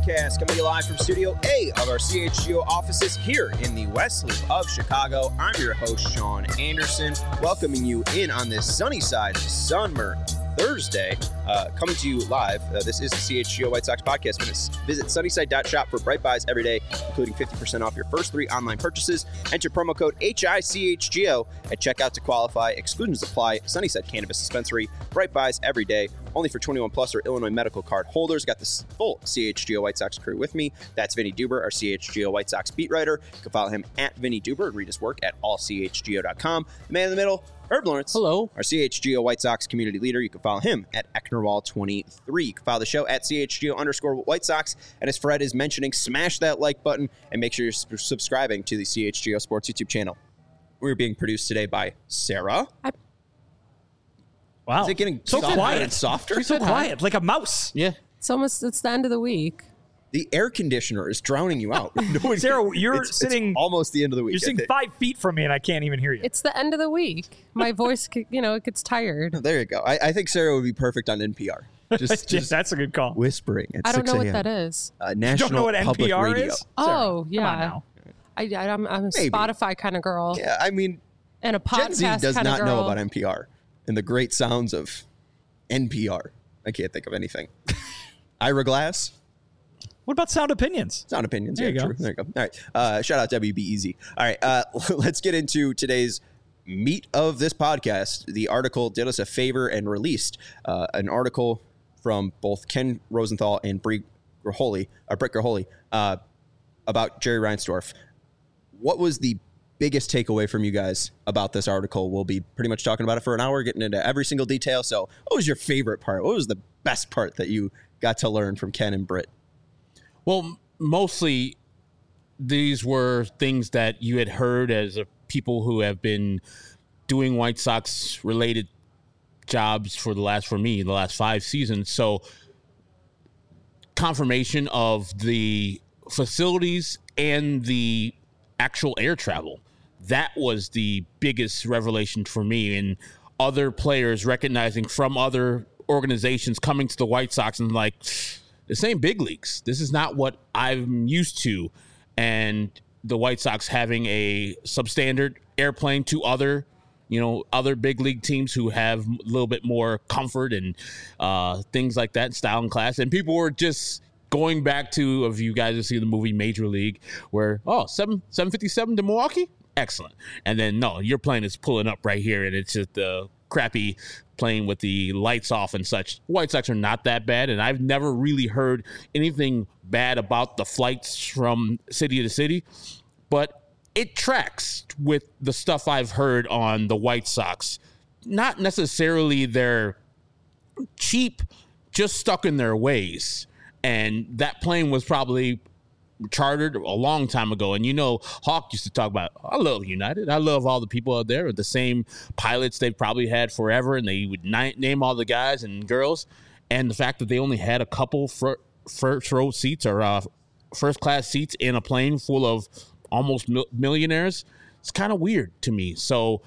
Podcast, coming to you live from Studio A of our CHGO offices here in the West Loop of Chicago. I'm your host, Sean Anderson, welcoming you in on this sunny side of Summer Thursday. Coming to you live, this is the CHGO White Sox Podcast. Visit sunnyside.shop for bright buys every day, including 50% off your first 3 online purchases. Enter promo code HICHGO at checkout to qualify. Exclusions apply. Sunnyside Cannabis Dispensary. Bright buys every day, only for 21 plus or Illinois medical card holders. Got the full CHGO White Sox crew with me. That's Vinny Duber, our CHGO White Sox beat writer. You can follow him at Vinny Duber and read his work at allchgo.com. The man in the middle, Herb Lawrence. Hello. Our CHGO White Sox community leader. You can follow him at Ecknerwall23. You can follow the show at CHGO_White Sox. And as Fred is mentioning, smash that like button and make sure you're subscribing to the CHGO Sports YouTube channel. We're being produced today by Sarah. Wow. Is it getting so softer quiet and softer? She's so quiet, like a mouse. Yeah. It's the end of the week. The air conditioner is drowning you out. Sarah, you're sitting it's almost the end of the week. You're sitting 5 feet from me, and I can't even hear you. It's the end of the week. My voice, it gets tired. Oh, there you go. I think Sarah would be perfect on NPR. Just that's a good call. Whispering at I don't 6 know what a.m. that is. National you don't know what Public NPR Radio. is? Oh, Sarah, yeah. I'm a Maybe. Spotify kind of girl. Yeah, I mean, And a Gen Z podcast does kind of not girl. know about NPR and the great sounds of NPR. I can't think of anything. Ira Glass. What about Sound Opinions? Sound Opinions. There Yeah, you go. true. There you go. All right. Shout out WBEZ. All right. Let's get into today's meat of this podcast. The article did us a favor and released an article from both Ken Rosenthal and Britt Graholi about Jerry Reinsdorf. What was the biggest takeaway from you guys about this article? We'll be pretty much talking about it for an hour, getting into every single detail. So what was your favorite part? What was the best part that you got to learn from Ken and Britt? Well, mostly these were things that you had heard as people who have been doing White Sox related jobs for the last 5 seasons. So confirmation of the facilities and the actual air travel. That was the biggest revelation for me, and other players recognizing from other organizations coming to the White Sox and like, this ain't big leagues. This is not what I'm used to. And the White Sox having a substandard airplane to other big league teams who have a little bit more comfort and things like that, style and class. And people were just going back to, if you guys have seen the movie Major League, where, 757 to Milwaukee? Excellent. And then, no, your plane is pulling up right here, and it's just the crappy plane with the lights off and such. White Sox are not that bad, and I've never really heard anything bad about the flights from city to city, but it tracks with the stuff I've heard on the White Sox. Not necessarily they're cheap, just stuck in their ways. And that plane was probably chartered a long time ago. And Hawk used to talk about, I love United. I love all the people out there, the same pilots they've probably had forever. And they would name all the guys and girls. And the fact that they only had a couple first row seats or first class seats in a plane full of almost millionaires, it's kind of weird to me. So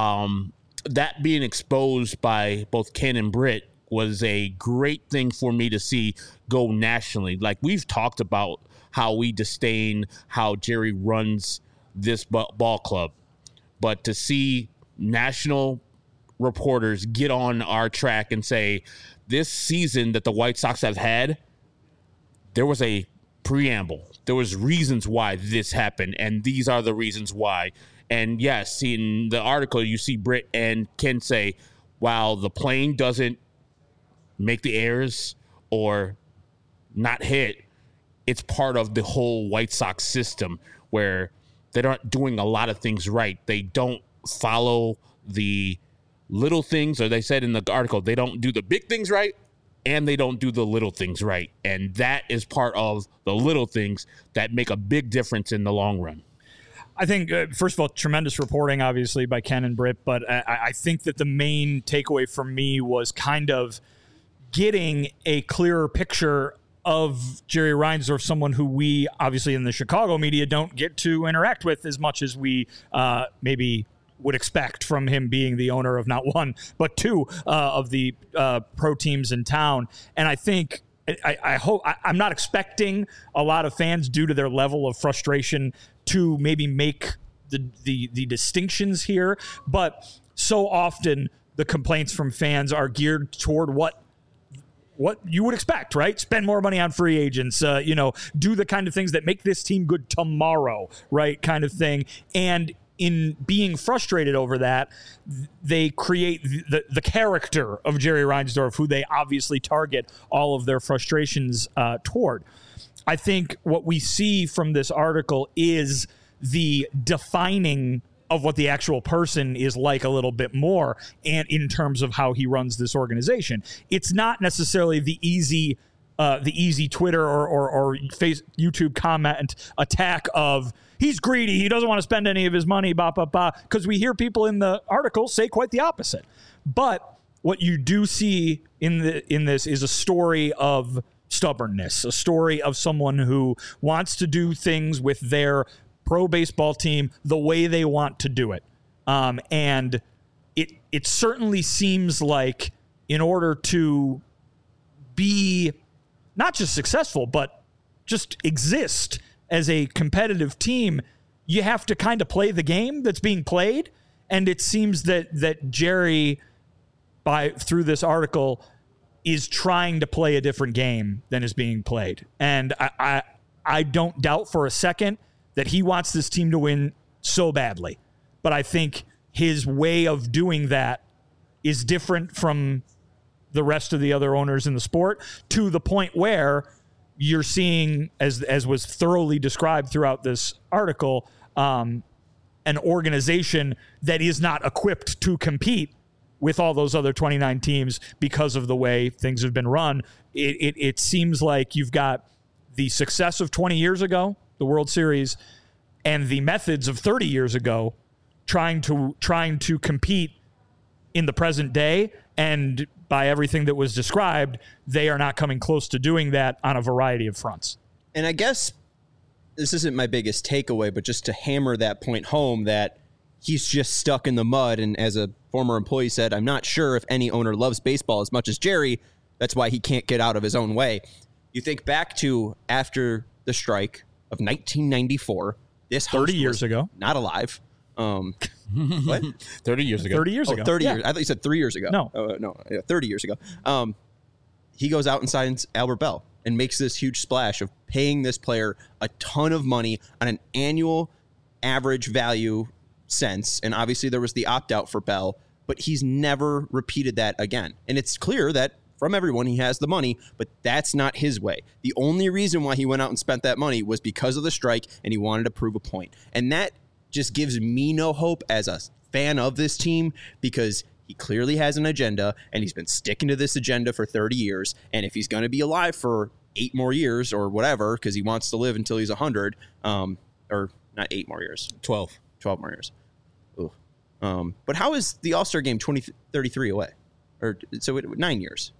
that being exposed by both Ken and Britt was a great thing for me to see go nationally. Like, we've talked about how we disdain how Jerry runs this ball club, but to see national reporters get on our track and say, this season that the White Sox have had, there was a preamble. There was reasons why this happened, and these are the reasons why. And yes, in the article, you see Britt and Ken say, while the plane doesn't make the errors or not hit, it's part of the whole White Sox system where they're not doing a lot of things right. They don't follow the little things, or they said in the article, they don't do the big things right, and they don't do the little things right. And that is part of the little things that make a big difference in the long run. I think, first of all, tremendous reporting, obviously, by Ken and Britt, but I think that the main takeaway for me was kind of getting a clearer picture of Jerry Reinsdorf, someone who we, obviously, in the Chicago media don't get to interact with as much as we maybe would expect from him being the owner of not one, but two of the pro teams in town. And I think I hope I'm not expecting a lot of fans, due to their level of frustration, to maybe make the distinctions here, but so often the complaints from fans are geared toward what you would expect, right? Spend more money on free agents, do the kind of things that make this team good tomorrow, right? Kind of thing. And in being frustrated over that, they create the character of Jerry Reinsdorf, who they obviously target all of their frustrations toward. I think what we see from this article is the defining of what the actual person is like a little bit more, and in terms of how he runs this organization. It's not necessarily the easy Twitter or YouTube comment attack of he's greedy, he doesn't want to spend any of his money, because we hear people in the article say quite the opposite. But what you do see in this is a story of stubbornness, a story of someone who wants to do things with their pro baseball team the way they want to do it. And it certainly seems like in order to be not just successful, but just exist as a competitive team, you have to kind of play the game that's being played. And it seems that Jerry, through this article, is trying to play a different game than is being played. And I don't doubt for a second that he wants this team to win so badly. But I think his way of doing that is different from the rest of the other owners in the sport, to the point where you're seeing, as was thoroughly described throughout this article, an organization that is not equipped to compete with all those other 29 teams because of the way things have been run. It seems like you've got the success of 20 years ago, the World Series, and the methods of 30 years ago, trying to compete in the present day. And by everything that was described, they are not coming close to doing that on a variety of fronts. And I guess this isn't my biggest takeaway, but just to hammer that point home, that he's just stuck in the mud. And as a former employee said, I'm not sure if any owner loves baseball as much as Jerry. That's why he can't get out of his own way. You think back to after the strike of 1994, this 30 years ago, not alive. What? 30 years ago. 30 years ago. 30 years. I thought you said 3 years ago. No. No. 30 years ago. He goes out and signs Albert Bell and makes this huge splash of paying this player a ton of money on an annual average value sense. And obviously there was the opt-out for Bell, but he's never repeated that again. And it's clear that from everyone, he has the money, but that's not his way. The only reason why he went out and spent that money was because of the strike, and he wanted to prove a point. And that just gives me no hope as a fan of this team, because he clearly has an agenda, and he's been sticking to this agenda for 30 years. And if he's going to be alive for 8 more years or whatever, because he wants to live until he's 100, or not 8 more years, 12 more years. Ooh. But how is the All-Star game 2033 away? Or so 9 years.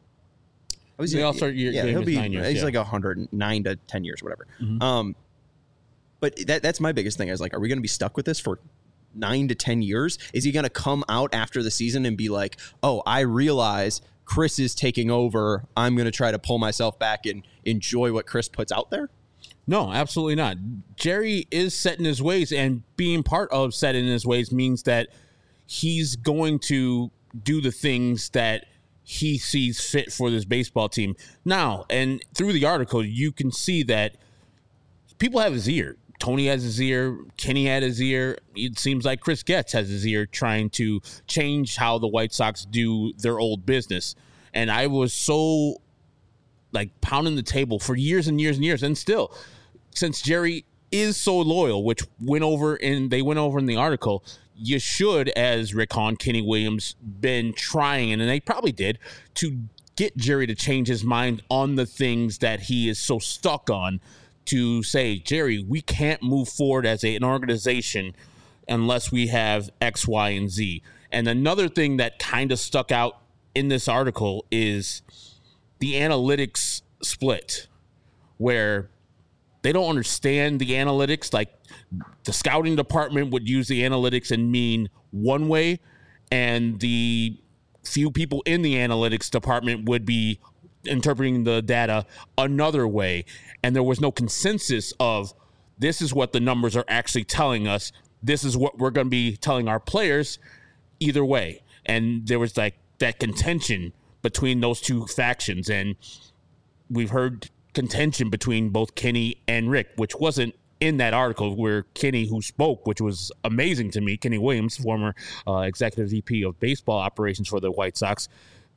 The All-Star game he'll be 9 years. He's like 109 to 10 years, whatever. Mm-hmm. But that's my biggest thing. I was like, are we going to be stuck with this for 9 to 10 years? Is he going to come out after the season and be like, oh, I realize Chris is taking over. I'm going to try to pull myself back and enjoy what Chris puts out there? No, absolutely not. Jerry is set in his ways, and being part of set in his ways means that he's going to do the things that he sees fit for this baseball team. Now, and through the article, you can see that people have his ear. Tony has his ear. Kenny had his ear. It seems like Chris Getz has his ear, trying to change how the White Sox do their old business. And I was so pounding the table for years and years and years. And still, since Jerry is so loyal, which they went over in the article, you should, as Rick Hahn, Kenny Williams, been trying, and they probably did, to get Jerry to change his mind on the things that he is so stuck on, to say, Jerry, we can't move forward as an organization unless we have X, Y, and Z. And another thing that kind of stuck out in this article is the analytics split, where they don't understand the analytics. Like, the scouting department would use the analytics and mean one way, and the few people in the analytics department would be interpreting the data another way. And there was no consensus of this is what the numbers are actually telling us. This is what we're going to be telling our players either way. And there was like that contention between those two factions. And we've heard contention between both Kenny and Rick, which wasn't in that article where Kenny, who spoke, which was amazing to me, Kenny Williams, former executive VP of baseball operations for the White Sox,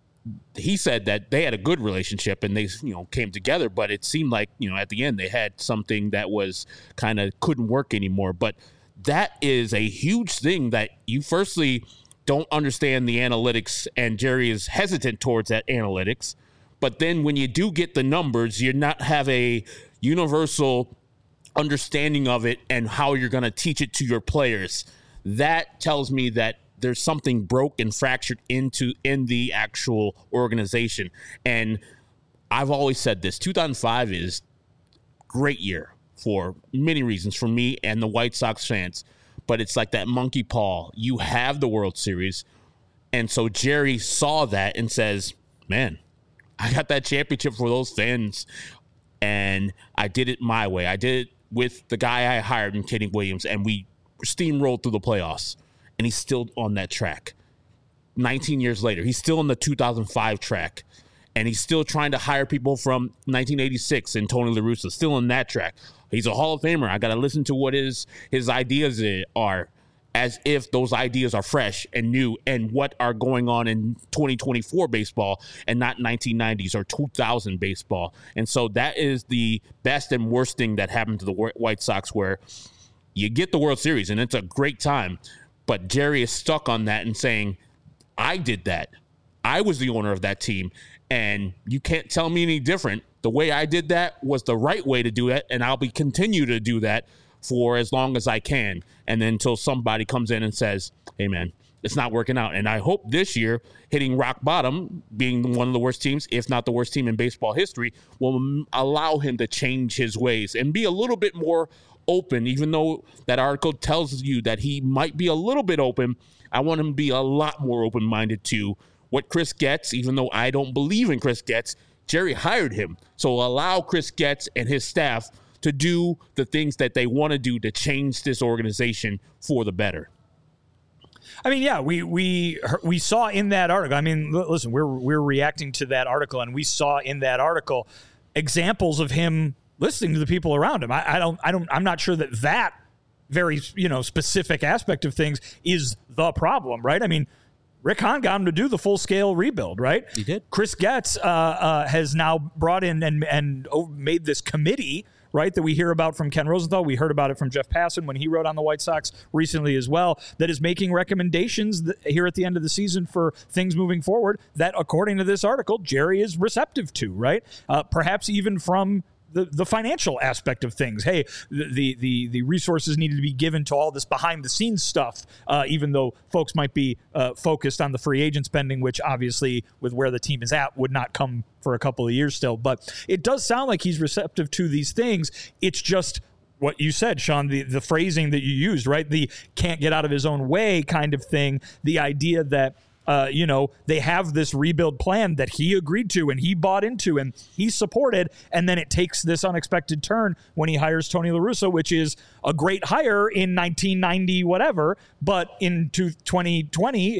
he said that they had a good relationship and they, came together, but it seemed like, at the end they had something that was kind of couldn't work anymore. But that is a huge thing that you firstly don't understand the analytics, and Jerry is hesitant towards that analytics. But then when you do get the numbers, you're not have a universal understanding of it and how you're going to teach it to your players. That tells me that there's something broke and fractured in the actual organization. And I've always said this, 2005 is great year for many reasons for me and the White Sox fans, but it's like that monkey paw. You have the World Series. And so Jerry saw that and says, man, I got that championship for those fans, and I did it my way. I did it with the guy I hired in Kenny Williams, and we steamrolled through the playoffs, and he's still on that track. 19 years later, he's still on the 2005 track, and he's still trying to hire people from 1986 and Tony La Russa, still on that track. He's a Hall of Famer. I got to listen to what his ideas are, as if those ideas are fresh and new and what are going on in 2024 baseball and not 1990s or 2000 baseball. And so that is the best and worst thing that happened to the White Sox, where you get the World Series and it's a great time, but Jerry is stuck on that and saying, I did that. I was the owner of that team, and you can't tell me any different. The way I did that was the right way to do it, and I'll continue to do that for as long as I can, and then until somebody comes in and says, hey, man, it's not working out. And I hope this year, hitting rock bottom, being one of the worst teams, if not the worst team in baseball history, will allow him to change his ways and be a little bit more open. Even though that article tells you that he might be a little bit open, I want him to be a lot more open-minded to what Chris Getz, even though I don't believe in Chris Getz, Jerry hired him. So allow Chris Getz and his staff to do the things that they want to do to change this organization for the better. I mean, yeah, we saw in that article. I mean, listen, we're reacting to that article, and we saw in that article examples of him listening to the people around him. I'm not sure that very specific aspect of things is the problem, right? I mean, Rick Hahn got him to do the full-scale rebuild, right? He did. Chris Getz has now brought in and made this committee, right, that we hear about from Ken Rosenthal. We heard about it from Jeff Passan when he wrote on the White Sox recently as well, that is making recommendations here at the end of the season for things moving forward that, according to this article, Jerry is receptive to, right? Perhaps even from the financial aspect of things. Hey, the resources needed to be given to all this behind the scenes stuff, even though folks might be focused on the free agent spending, which obviously with where the team is at would not come for a couple of years still. But it does sound like he's receptive to these things. It's just what you said, Sean, the phrasing that you used, right? The can't get out of his own way kind of thing. The idea that they have this rebuild plan that he agreed to and he bought into and he supported, and then it takes this unexpected turn when he hires Tony La Russa, which is a great hire in 1990 whatever, but into 2020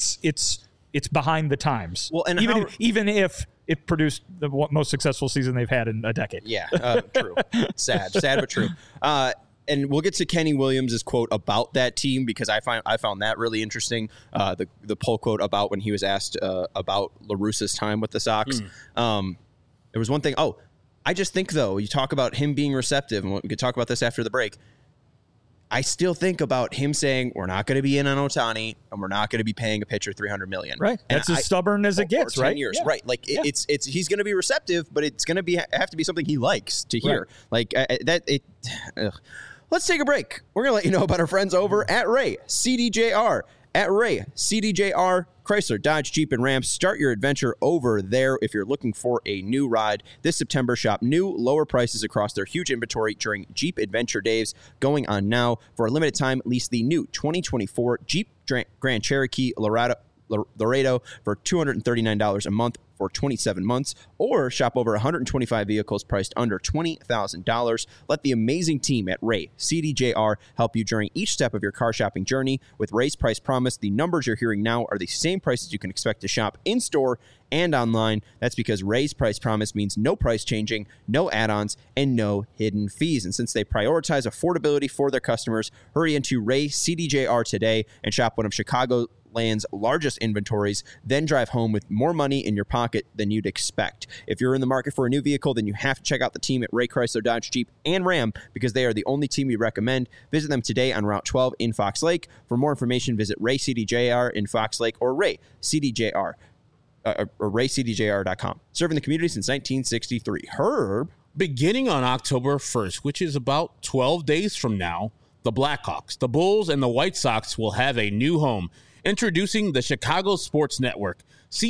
it's behind the times. Well, and even if it produced the most successful season they've had in a decade. Yeah, true. Sad but true. And we'll get to Kenny Williams' quote about that team, because I found that really interesting. The poll quote about when he was asked about La Russa's time with the Sox. There was one thing. Oh, I just think, though, you talk about him being receptive, and we could talk about this after the break. I still think about him saying, we're not going to be in on Ohtani, and we're not going to be paying a pitcher $300 million. Right. And that's as stubborn as it gets, right? 10 years. Yeah. Right. Like, Yeah. it's he's going to be receptive, but it's going to have to be something he likes to hear. Right. Like, Let's take a break. We're going to let you know about our friends over at Ray CDJR. At Ray CDJR, Chrysler, Dodge, Jeep, and Ram. Start your adventure over there if you're looking for a new ride. This September, shop new, lower prices across their huge inventory during Jeep Adventure Days going on now. For a limited time, lease the new 2024 Jeep Grand Cherokee Laredo for $239 a month for 27 months, or shop over 125 vehicles priced under $20,000. Let the amazing team at Ray CDJR help you during each step of your car shopping journey. With Ray's Price Promise, the numbers you're hearing now are the same prices you can expect to shop in-store and online. That's because Ray's Price Promise means no price changing, no add-ons, and no hidden fees. And since they prioritize affordability for their customers, hurry into Ray CDJR today and shop one of Chicagoland's largest inventories, then drive home with more money in your pocket than you'd expect. If you're in the market for a new vehicle, then you have to check out the team at Ray Chrysler Dodge Jeep and Ram, because they are the only team we recommend. Visit them today on Route 12 in Fox Lake. For more information, visit Ray CDJR in Fox Lake or Ray CDJR. Or raycdjr.com. Serving the community since 1963. Herb. Beginning on October 1st, which is about 12 days from now, the Blackhawks, the Bulls, and the White Sox will have a new home. Introducing the Chicago Sports Network,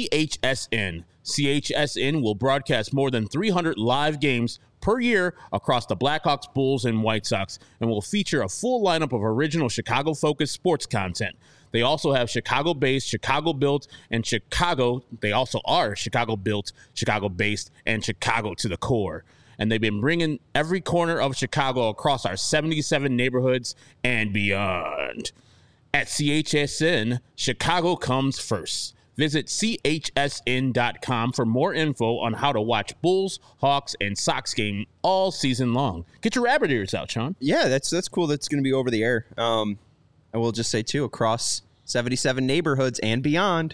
CHSN. CHSN will broadcast more than 300 live games per year across the Blackhawks, Bulls, and White Sox, and will feature a full lineup of original Chicago-focused sports content. They also have Chicago-based, Chicago-built, and they also are Chicago-built, Chicago-based, and Chicago to the core. And they've been bringing every corner of Chicago across our 77 neighborhoods and beyond. At CHSN, Chicago comes first. Visit chsn.com for more info on how to watch Bulls, Hawks, and Sox game all season long. Get your rabbit ears out, Sean. Yeah, that's cool. That's going to be over the air. I will just say, too, across 77 neighborhoods and beyond.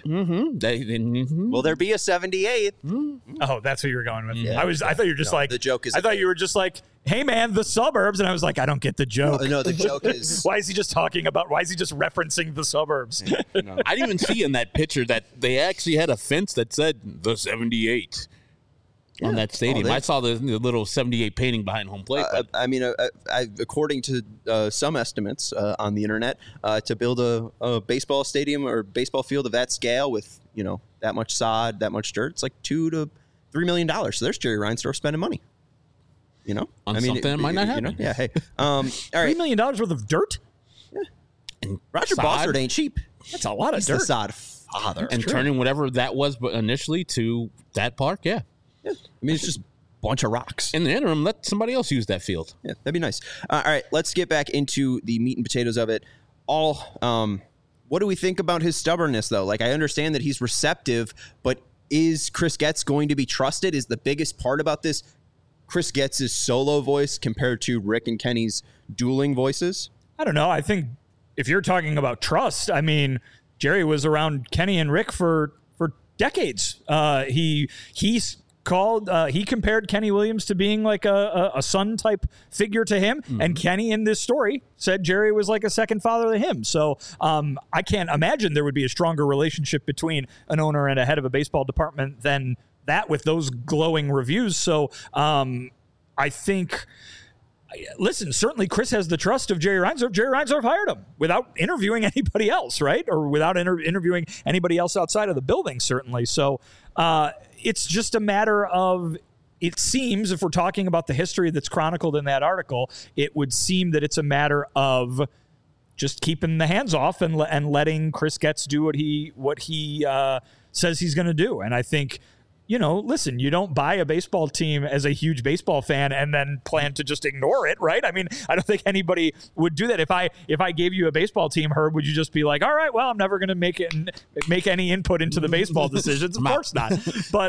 Will there be a 78th? Oh, that's what you were going with. Yeah. I thought you were just like, the joke is, I thought you were just like, hey man, the suburbs. And I was like, I don't get the joke. No, the joke is, why is he just referencing the suburbs? I didn't even see in that picture that they actually had a fence that said the 78 on that stadium. I saw the little 78 painting behind home plate. According to some estimates on the internet, to build a baseball stadium or baseball field of that scale with, that much sod, that much dirt, it's like $2 to $3 million. So there's Jerry Reinsdorf spending money. On something that might not happen. Yeah. Hey. All right. $3 million worth of dirt? Yeah. And Roger Bossard ain't cheap. That's a lot of He's dirt. the sod father. And turning whatever that was initially to that park, yeah. Yeah. It's just a bunch of rocks. In the interim, let somebody else use that field. Yeah, that'd be nice. All right, let's get back into the meat and potatoes of it. What do we think about his stubbornness, though? Like, I understand that he's receptive, but is Chris Getz going to be trusted? Is the biggest part about this Chris Getz's solo voice compared to Rick and Kenny's dueling voices? I don't know. I think if you're talking about trust, Jerry was around Kenny and Rick for decades. He compared Kenny Williams to being like a son type figure to him. Mm-hmm. And Kenny in this story said Jerry was like a second father to him. So I can't imagine there would be a stronger relationship between an owner and a head of a baseball department than that with those glowing reviews. So I think, listen, certainly Chris has the trust of Jerry Reinsdorf. Jerry Reinsdorf hired him without interviewing anybody else, right? Or without interviewing anybody else outside of the building, certainly. So it's just a matter of, it seems, if we're talking about the history that's chronicled in that article, it would seem that it's a matter of just keeping the hands off and letting Chris Getz do what he says he's going to do. And I think, listen, you don't buy a baseball team as a huge baseball fan and then plan to just ignore it, right? I don't think anybody would do that. If I gave you a baseball team, Herb, would you just be like, all right, well, I'm never going to make any input into the baseball decisions? Of course not. But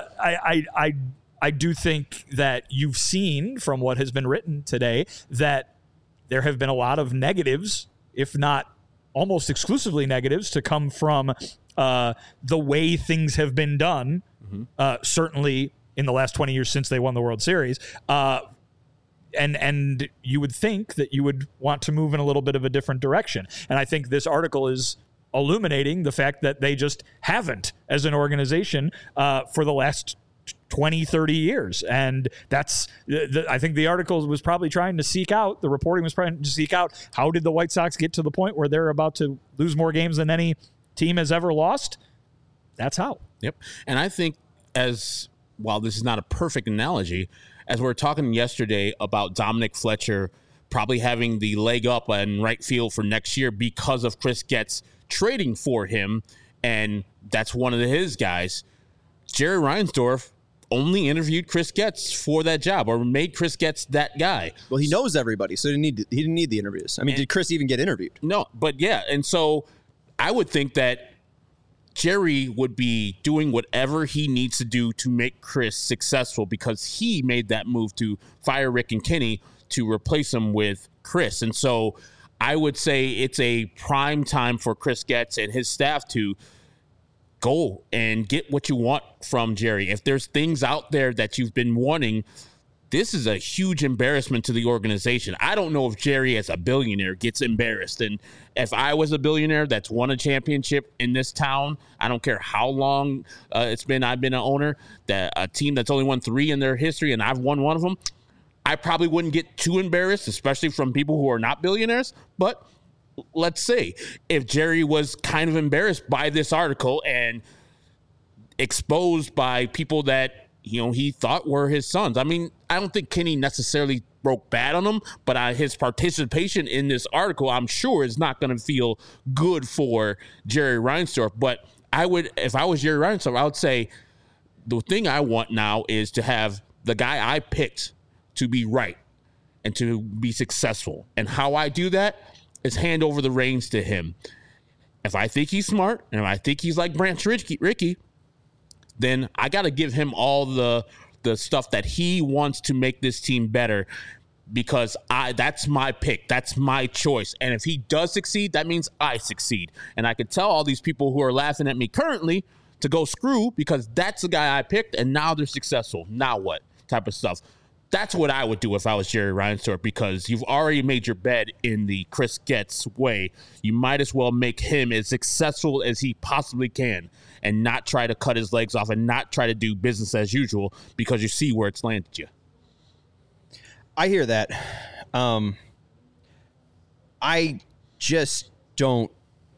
I do think that you've seen from what has been written today that there have been a lot of negatives, if not almost exclusively negatives, to come from the way things have been done. Certainly in the last 20 years since they won the World Series. And you would think that you would want to move in a little bit of a different direction. And I think this article is illuminating the fact that they just haven't as an organization for the last 20, 30 years. And that's, I think the article was probably trying to seek out, the reporting was trying to seek out, how did the White Sox get to the point where they're about to lose more games than any team has ever lost? That's how. Yep. And I think, while this is not a perfect analogy, as we were talking yesterday about Dominic Fletcher probably having the leg up in right field for next year because of Chris Getz trading for him and that's one of his guys. Jerry Reinsdorf only interviewed Chris Getz for that job, or made Chris Getz that guy. Well, he knows everybody, so he didn't need the interviews. I mean, did Chris even get interviewed? No, but yeah, and so I would think that Jerry would be doing whatever he needs to do to make Chris successful, because he made that move to fire Rick and Kenny to replace him with Chris. And so I would say it's a prime time for Chris Getz and his staff to go and get what you want from Jerry. If there's things out there that you've been wanting, this is a huge embarrassment to the organization. I don't know if Jerry, as a billionaire, gets embarrassed. And if I was a billionaire that's won a championship in this town, I don't care how long it's been I've been an owner, that a team that's only won 3 in their history and I've won one of them, I probably wouldn't get too embarrassed, especially from people who are not billionaires. But let's say if Jerry was kind of embarrassed by this article and exposed by people that, he thought were his sons. I mean, I don't think Kenny necessarily broke bad on him, but his participation in this article, I'm sure, is not going to feel good for Jerry Reinsdorf. But if I was Jerry Reinsdorf, I would say the thing I want now is to have the guy I picked to be right and to be successful. And how I do that is hand over the reins to him. If I think he's smart and if I think he's like Branch Rickey, then I got to give him all the stuff that he wants to make this team better, because that's my pick. That's my choice. And if he does succeed, that means I succeed. And I could tell all these people who are laughing at me currently to go screw, because that's the guy I picked and now they're successful. Now what type of stuff? That's what I would do if I was Jerry Reinsdorf, because you've already made your bed in the Chris Getz way. You might as well make him as successful as he possibly can and not try to cut his legs off and not try to do business as usual, because you see where it's landed you. I hear that. I just don't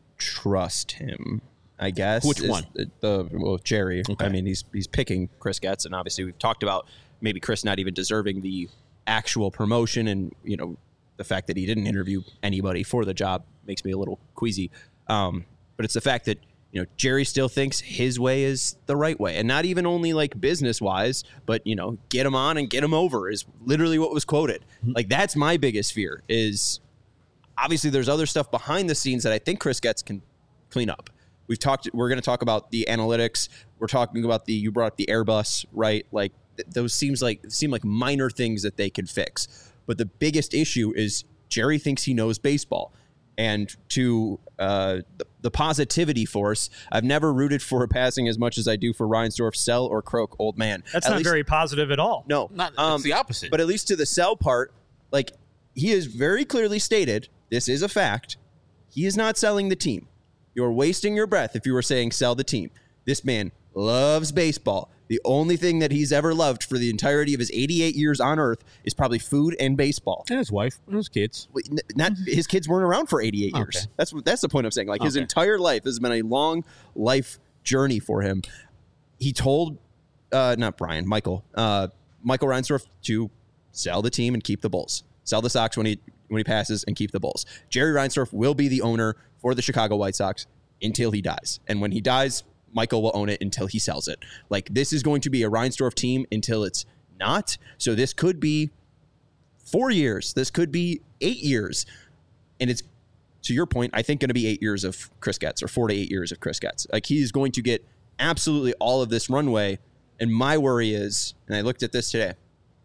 trust him, I guess. Which one? Jerry. Okay. I mean, he's picking Chris Getz, and obviously we've talked about maybe Chris not even deserving the actual promotion, and the fact that he didn't interview anybody for the job makes me a little queasy. But it's the fact that Jerry still thinks his way is the right way, and not even only like business wise, but get him on and get him over is literally what was quoted. Like, that's my biggest fear. Is obviously there's other stuff behind the scenes that I think Chris Getz can clean up. We're going to talk about the analytics. We're talking about you brought up the Airbus, right? Like, those seem like minor things that they can fix. But the biggest issue is Jerry thinks he knows baseball. And to the positivity force, I've never rooted for a passing as much as I do for Reinsdorf, sell or croak old man. That's not very positive at all. No. It's the opposite. But at least to the sell part, like, he has very clearly stated, this is a fact, he is not selling the team. You're wasting your breath if you were saying sell the team. This man loves baseball. The only thing that he's ever loved for the entirety of his 88 years on Earth is probably food and baseball. And his wife and his kids. Not his kids weren't around for 88 years. Okay. That's the point I'm saying. Like, his entire life has been a long life journey for him. He told Michael Reinsdorf to sell the team and keep the Bulls. Sell the Sox when he passes and keep the Bulls. Jerry Reinsdorf will be the owner for the Chicago White Sox until he dies. And when he dies, Michael will own it until he sells it. Like, this is going to be a Reinsdorf team until it's not. So this could be 4 years. This could be 8 years. And it's, to your point, I think going to be 8 years of Chris Getz, or 4 to 8 years of Chris Getz. Like, he's going to get absolutely all of this runway. And my worry is, and I looked at this today,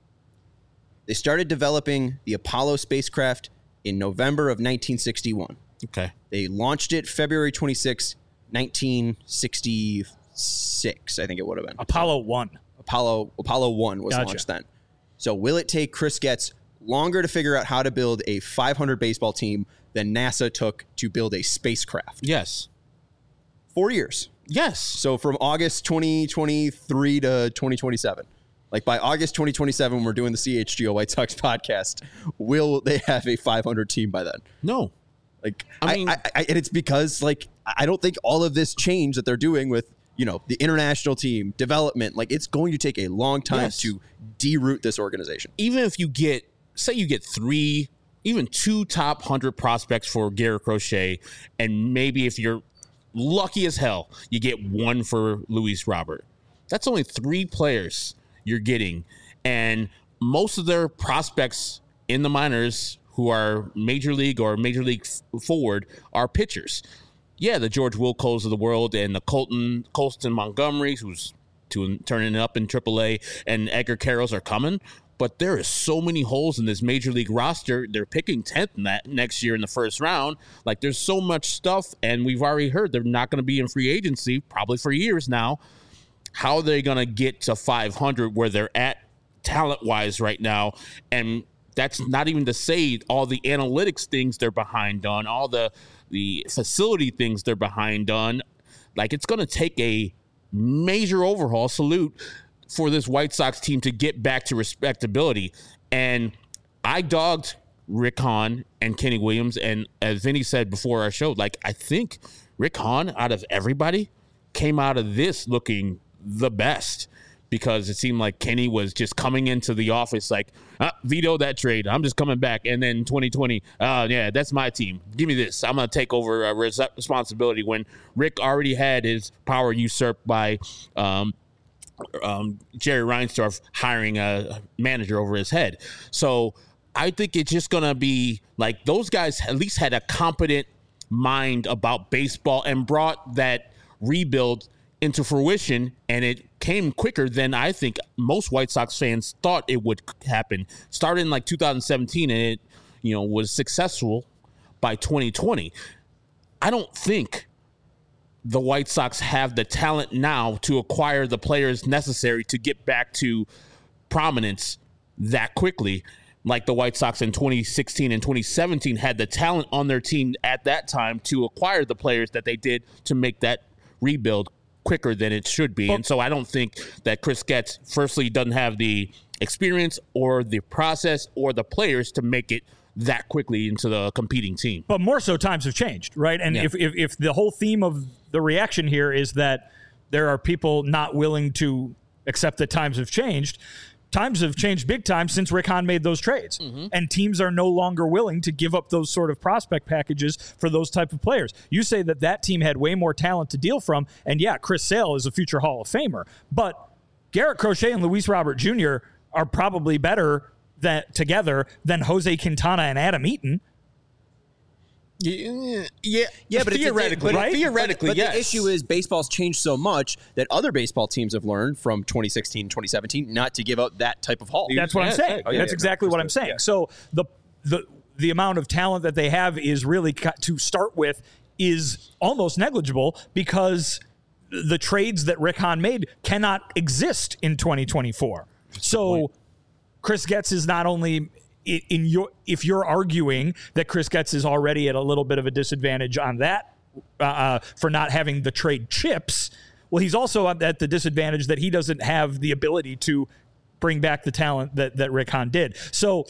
they started developing the Apollo spacecraft in November of 1961. Okay. They launched it February 26, 1966, I think it would have been. Apollo 1 was launched then. So will it take Chris Getz longer to figure out how to build a 500 baseball team than NASA took to build a spacecraft? Yes. 4 years. Yes. So from August 2023 to 2027. Like, by August 2027, when we're doing the CHGO White Sox podcast, will they have a 500 team by then? No. Like, and it's because, like, I don't think all of this change that they're doing with, the international team development, like, it's going to take a long time to deroot this organization. Even if you get 2 top 100 prospects for Garrett Crochet, and maybe if you're lucky as hell, you get one for Luis Robert. That's only 3 players you're getting. And most of their prospects in the minors who are major league or major league forward are pitchers. Yeah, the George Wilcos of the world and the Colston Montgomerys, who's turning it up in AAA, and Edgar Carrolls are coming. But there is so many holes in this major league roster. They're picking 10th in that next year in the first round. Like, there's so much stuff, and we've already heard they're not going to be in free agency probably for years now. How are they going to get to 500 where they're at talent-wise right now? And that's not even to say all the analytics things they're behind on, all the facility things they're behind on. Like, it's going to take a major overhaul, salute, for this White Sox team to get back to respectability. And I dogged Rick Hahn and Kenny Williams. And as Vinny said before our show, like, I think Rick Hahn, out of everybody, came out of this looking the best, because it seemed like Kenny was just coming into the office like, veto that trade. I'm just coming back. And then 2020, yeah, that's my team. Give me this. I'm going to take over responsibility, when Rick already had his power usurped by Jerry Reinsdorf hiring a manager over his head. So I think it's just going to be like, those guys at least had a competent mind about baseball and brought that rebuild into fruition, and it came quicker than I think most White Sox fans thought it would happen. Started in like 2017, and it, was successful by 2020. I don't think the White Sox have the talent now to acquire the players necessary to get back to prominence that quickly, like the White Sox in 2016 and 2017 had the talent on their team at that time to acquire the players that they did to make that rebuild quicker than it should be. And so I don't think that Chris Getz, firstly, doesn't have the experience or the process or the players to make it that quickly into the competing team. But more so, times have changed, right? And if the whole theme of the reaction here is that there are people not willing to accept that times have changed big time since Rick Hahn made those trades. Mm-hmm. And teams are no longer willing to give up those sort of prospect packages for those type of players. You say that team had way more talent to deal from, and yeah, Chris Sale is a future Hall of Famer. But Garrett Crochet and Luis Robert Jr. are probably better together than Jose Quintana and Adam Eaton. Yeah, but theoretically, right? Theoretically, but yes. The issue is baseball's changed so much that other baseball teams have learned from 2016 and 2017 not to give up that type of haul. That's what I'm saying. That's exactly what I'm saying. Yeah. So the amount of talent that they have is really, to start with, is almost negligible, because the trades that Rick Hahn made cannot exist in 2024. So Chris Getz is not only if you're arguing that Chris Getz is already at a little bit of a disadvantage on that for not having the trade chips, well, he's also at the disadvantage that he doesn't have the ability to bring back the talent that Rick Hahn did. So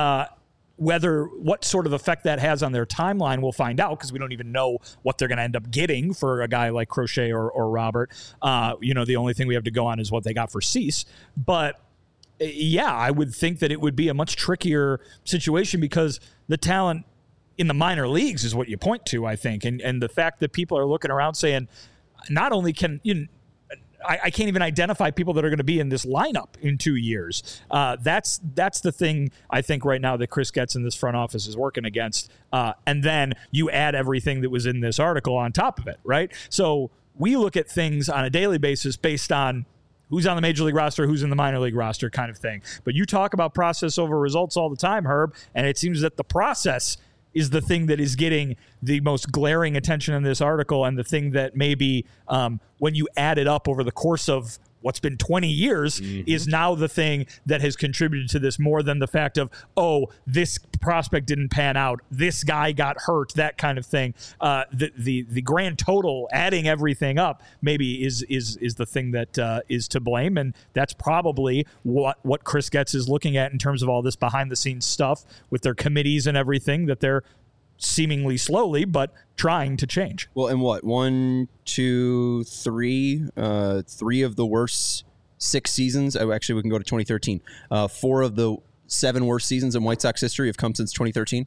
what sort of effect that has on their timeline, we'll find out, because we don't even know what they're going to end up getting for a guy like Crochet or Robert. The only thing we have to go on is what they got for Cease. But yeah, I would think that it would be a much trickier situation, because the talent in the minor leagues is what you point to, I think. And the fact that people are looking around saying, not only can I can't even identify people that are going to be in this lineup in 2 years. That's the thing, I think, right now that Chris Getz in this front office is working against. And then you add everything that was in this article on top of it, right? So we look at things on a daily basis based on who's on the major league roster, who's in the minor league roster kind of thing. But you talk about process over results all the time, Herb, and it seems that the process is the thing that is getting the most glaring attention in this article, and the thing that maybe when you add it up over the course of what's been 20 years is now the thing that has contributed to this, more than the fact of, this prospect didn't pan out, this guy got hurt, that kind of thing. The grand total, adding everything up, maybe is the thing that is to blame, and that's probably what Chris Getz is looking at in terms of all this behind the scenes stuff with their committees and everything that they're seemingly slowly but trying to change. Well, and what, 1, 2, 3, 3 of the worst 6 seasons. Actually, we can go to 2013. 4 of the 7 worst seasons in White Sox history have come since 2013.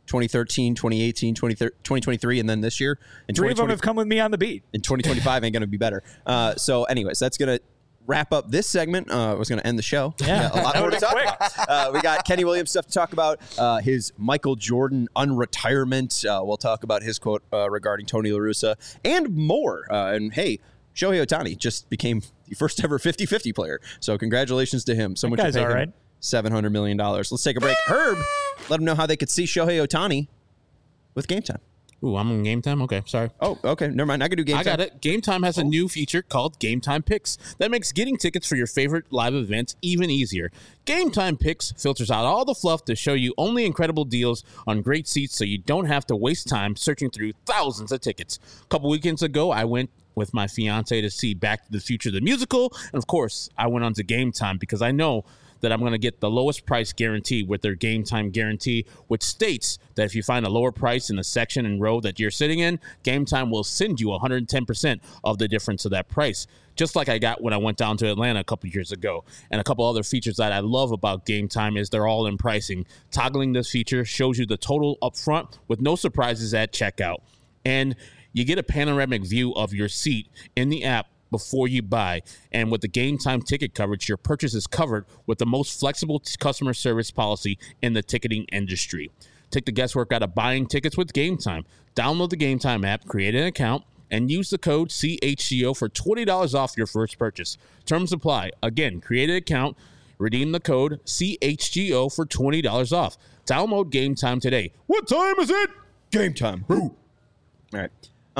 2013, 2018, 2023, and then this year. And 3 of them have come with me on the beat. In 2025 ain't going to be better. So anyways, that's going to wrap up this segment. I was going to end the show. Yeah. A lot more to talk about. We got Kenny Williams stuff to talk about. His Michael Jordan unretirement. We'll talk about his quote regarding Tony La Russa and more. And hey, Shohei Ohtani just became the first ever 50-50 player. So congratulations to him. Someone should pay him right. $700 million. Let's take a break. Herb, let them know how they could see Shohei Ohtani with Game Time. Ooh, I'm on Game Time? Okay, sorry. Oh, okay. Never mind. I can do Game Time. I got it. Game Time has a new feature called Game Time Picks that makes getting tickets for your favorite live events even easier. Game Time Picks filters out all the fluff to show you only incredible deals on great seats so you don't have to waste time searching through thousands of tickets. A couple weekends ago, I went with my fiance to see Back to the Future, the musical. And of course, I went on to Game Time because I know that I'm going to get the lowest price guarantee with their Game Time guarantee, which states that if you find a lower price in the section and row that you're sitting in, Game Time will send you 110% of the difference of that price, just like I got when I went down to Atlanta a couple years ago. And a couple other features that I love about Game Time is they're all in pricing. Toggling this feature shows you the total up front with no surprises at checkout. And you get a panoramic view of your seat in the app before you buy. And with the Game Time ticket coverage, your purchase is covered with the most flexible customer service policy in the ticketing industry. Take the guesswork out of buying tickets with Game Time. Download the Game Time app, create an account, and use the code CHGO for $20 off your first purchase. Terms apply. Again, create an account, redeem the code CHGO for $20 off. Download Game Time today. What time is it? Game Time. All right.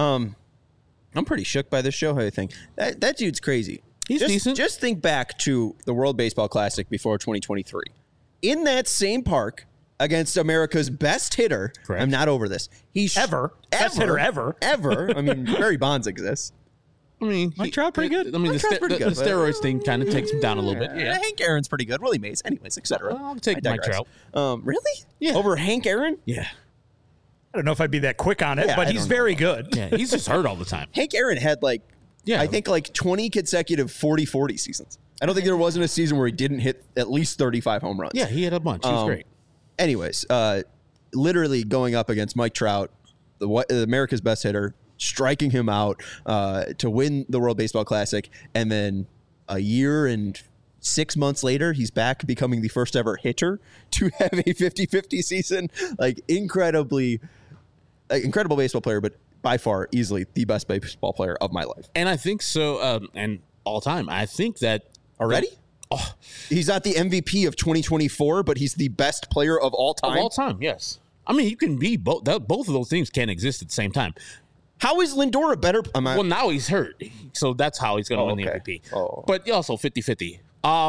I'm pretty shook by this Shohei thing. That dude's crazy. He's decent. Just think back to the World Baseball Classic before 2023. In that same park against America's best hitter. Correct. I'm not over this. He's Best hitter ever. I mean, Barry Bonds exists. I mean, Mike Trout pretty good. I mean, the steroids thing kind of takes him down a little bit. Yeah. Hank Aaron's pretty good. Willie Mays. Anyways, etc. I'll take Mike Trout. Really? Yeah. Over Hank Aaron? Yeah. I don't know if I'd be that quick on it, Yeah, but I he's don't know. very good. Yeah, he's just hurt all the time. Hank Aaron had I think 20 consecutive 40-40 seasons. I don't think there wasn't a season where he didn't hit at least 35 home runs. Yeah, he had a bunch. He was great. Anyways, literally going up against Mike Trout, America's best hitter, striking him out to win the World Baseball Classic. And then a year and 6 months later, he's back becoming the first ever hitter to have a 50-50 season. Incredible baseball player, but by far easily the best baseball player of my life. And I think so, and all time. I think that Already? He's not the MVP of 2024, but he's the best player of all time. of all time, yes. I mean, you can be both. Both of those things can't exist at the same time. How is Lindor a better? Well, now he's hurt, so that's how he's going to win the MVP. Oh. But also 50-50.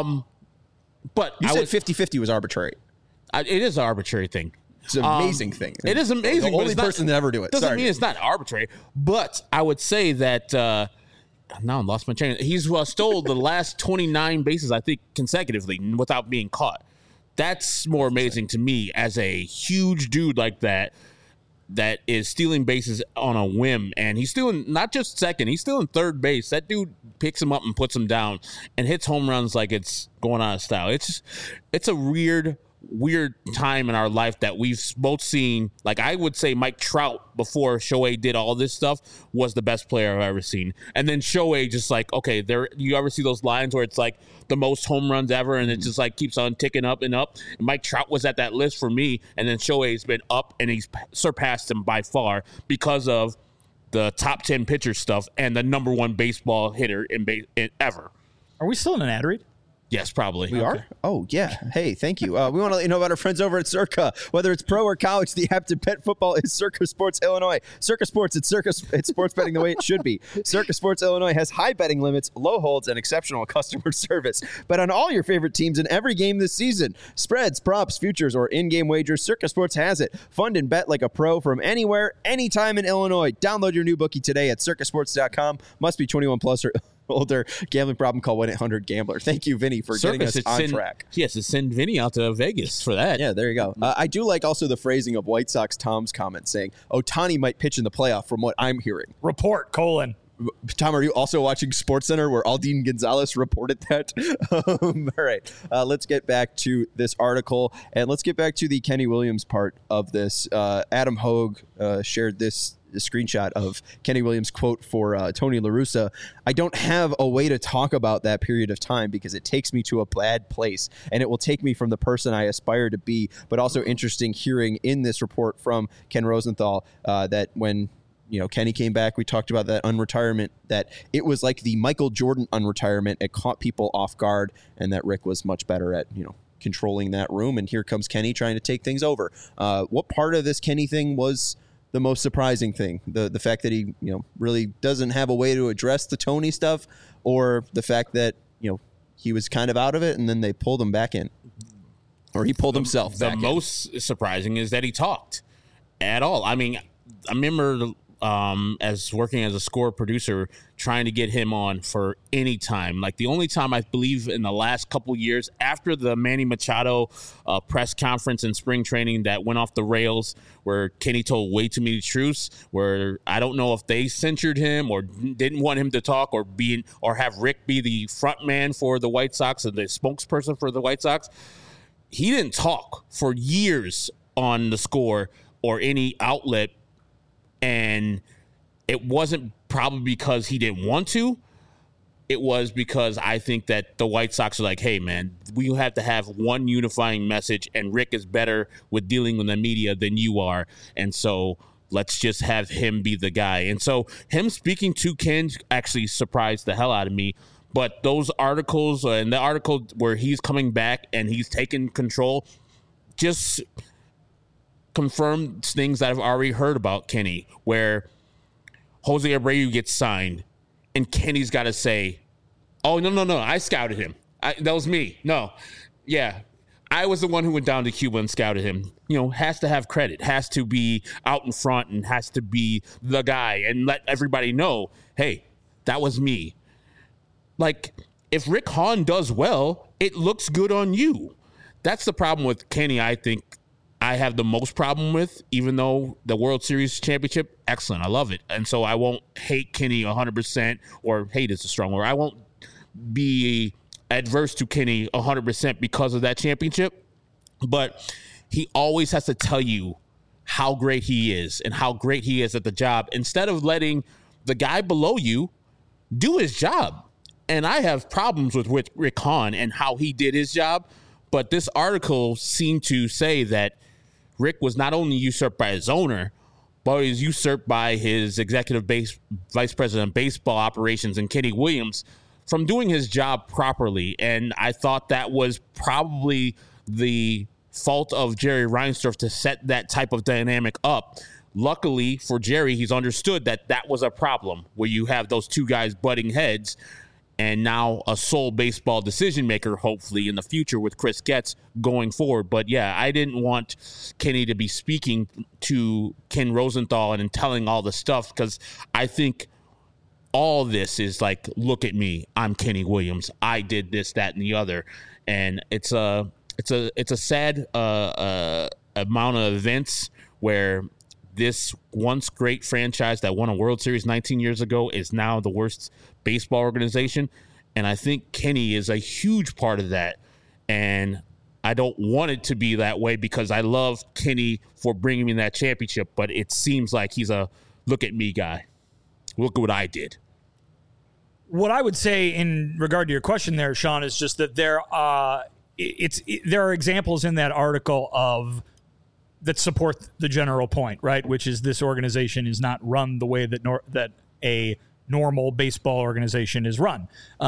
But You said 50-50 was arbitrary. it is an arbitrary thing. It's an amazing thing. It is amazing. The but only it's not- person to ever do it. Doesn't Sorry. mean it's not arbitrary. But I would say that now I lost my train. He's stole the last 29 bases, I think, consecutively without being caught. That's more amazing to me as a huge dude like that is stealing bases on a whim. And he's stealing not just second, he's stealing third base. That dude picks him up and puts him down and hits home runs like it's going out of style. It's a weird time in our life that we've both seen. Like, I would say Mike Trout, before Shohei did all this stuff, was the best player I've ever seen. And then Shohei just okay, you ever see those lines where it's like the most home runs ever and it just keeps on ticking up and up? And Mike Trout was at that list for me, and then Shohei's been up and he's surpassed him by far because of the top 10 pitcher stuff and the number one baseball hitter in ever. Are we still in an ad read? Yes, probably. We are? Oh, yeah. Hey, thank you. We want to let you know about our friends over at Circa. Whether it's pro or college, the app to bet football is Circa Sports Illinois. Circa Sports, it's sports betting the way it should be. Circa Sports Illinois has high betting limits, low holds, and exceptional customer service. Bet on all your favorite teams in every game this season. Spreads, props, futures, or in-game wagers, Circa Sports has it. Fund and bet like a pro from anywhere, anytime in Illinois. Download your new bookie today at circasports.com. Must be 21 plus or older. Gambling problem, call 1-800-GAMBLER. Thank you, Vinny, for getting us on track. Yes, to send Vinny out to Vegas for that. Yeah, there you go. I do like also the phrasing of White Sox Tom's comment saying, Ohtani might pitch in the playoff from what I'm hearing. Report, : Tom, are you also watching SportsCenter where Aldine Gonzalez reported that? All right, let's get back to this article, and let's get back to the Kenny Williams part of this. Adam Hogue shared this screenshot of Kenny Williams' quote for Tony La Russa. I don't have a way to talk about that period of time because it takes me to a bad place, and it will take me from the person I aspire to be. But also interesting hearing in this report from Ken Rosenthal that when Kenny came back, we talked about that unretirement, that it was like the Michael Jordan unretirement. It caught people off guard, and that Rick was much better at, controlling that room. And here comes Kenny trying to take things over. What part of this Kenny thing was the most surprising thing? The fact that he, really doesn't have a way to address the Tony stuff, or the fact that, he was kind of out of it and then they pulled him back in, or he pulled himself back in. The most surprising is that he talked at all. I mean, I remember as working as a score producer, trying to get him on for any time. Like the only time I believe in the last couple of years after the Manny Machado press conference in spring training that went off the rails, where Kenny told way too many truths, where I don't know if they censured him or didn't want him to talk, or have Rick be the front man for the White Sox and the spokesperson for the White Sox. He didn't talk for years on the Score or any outlet. And it wasn't probably because he didn't want to. It was because I think that the White Sox are like, hey, man, we have to have one unifying message, and Rick is better with dealing with the media than you are. And so let's just have him be the guy. And so him speaking to Ken actually surprised the hell out of me. But those articles, and the article where he's coming back and he's taking control, just confirmed things that I've already heard about Kenny, where Jose Abreu gets signed and Kenny's got to say, oh, no, I scouted him. That was me. No. Yeah. I was the one who went down to Cuba and scouted him. Has to have credit, has to be out in front, and has to be the guy and let everybody know, hey, that was me. Like, if Rick Hahn does well, it looks good on you. That's the problem with Kenny, I think, I have the most problem with, even though the World Series championship, excellent. I love it. And so I won't hate Kenny 100%, or hate is a strong word. I won't be adverse to Kenny 100% because of that championship. But he always has to tell you how great he is and how great he is at the job, instead of letting the guy below you do his job. And I have problems with Rick Hahn and how he did his job. But this article seemed to say that Rick was not only usurped by his owner, but he was usurped by his executive vice president of baseball operations and Kenny Williams from doing his job properly. And I thought that was probably the fault of Jerry Reinsdorf to set that type of dynamic up. Luckily for Jerry, he's understood that was a problem where you have those two guys butting heads. And now a sole baseball decision maker, hopefully, in the future with Chris Getz going forward. But yeah, I didn't want Kenny to be speaking to Ken Rosenthal and telling all the stuff, because I think all this is like, look at me, I'm Kenny Williams, I did this, that, and the other. And it's a sad amount of events where this once great franchise that won a World Series 19 years ago is now the worst baseball organization. And I think Kenny is a huge part of that. And I don't want it to be that way, because I love Kenny for bringing me that championship. But it seems like he's a look at me guy. Look at what I did. What I would say in regard to your question there, Sean, is just that there are examples in that article that support the general point, right? Which is this organization is not run the way that a normal baseball organization is run.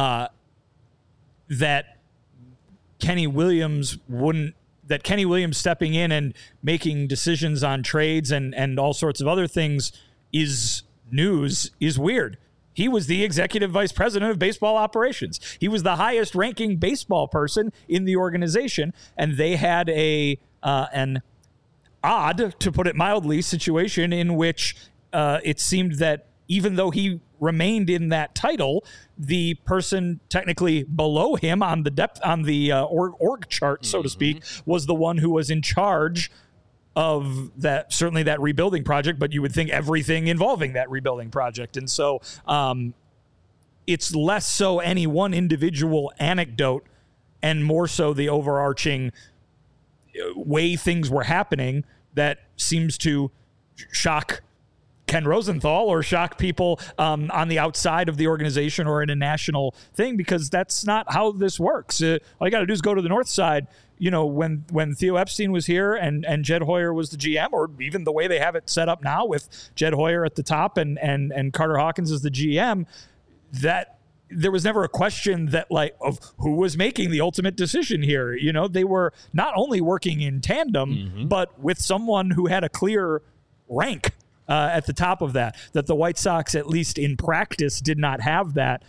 That Kenny Williams stepping in and making decisions on trades and all sorts of other things is weird. He was the executive vice president of baseball operations. He was the highest ranking baseball person in the organization, and they had an odd, to put it mildly, situation in which it seemed that even though he remained in that title, the person technically below him on the org chart, so to speak, was the one who was in charge of that, certainly that rebuilding project, but you would think everything involving that rebuilding project. And so it's less so any one individual anecdote and more so the overarching way things were happening that seems to shock Ken Rosenthal or shock people on the outside of the organization or in a national thing, because that's not how this works. All you got to do is go to the north side. You know, when Theo Epstein was here and Jed Hoyer was the GM, or even the way they have it set up now with Jed Hoyer at the top and Carter Hawkins as the GM, that there was never a question that like of who was making the ultimate decision here. You know, they were not only working in tandem, but with someone who had a clear rank at the top of that the White Sox, at least in practice, did not have that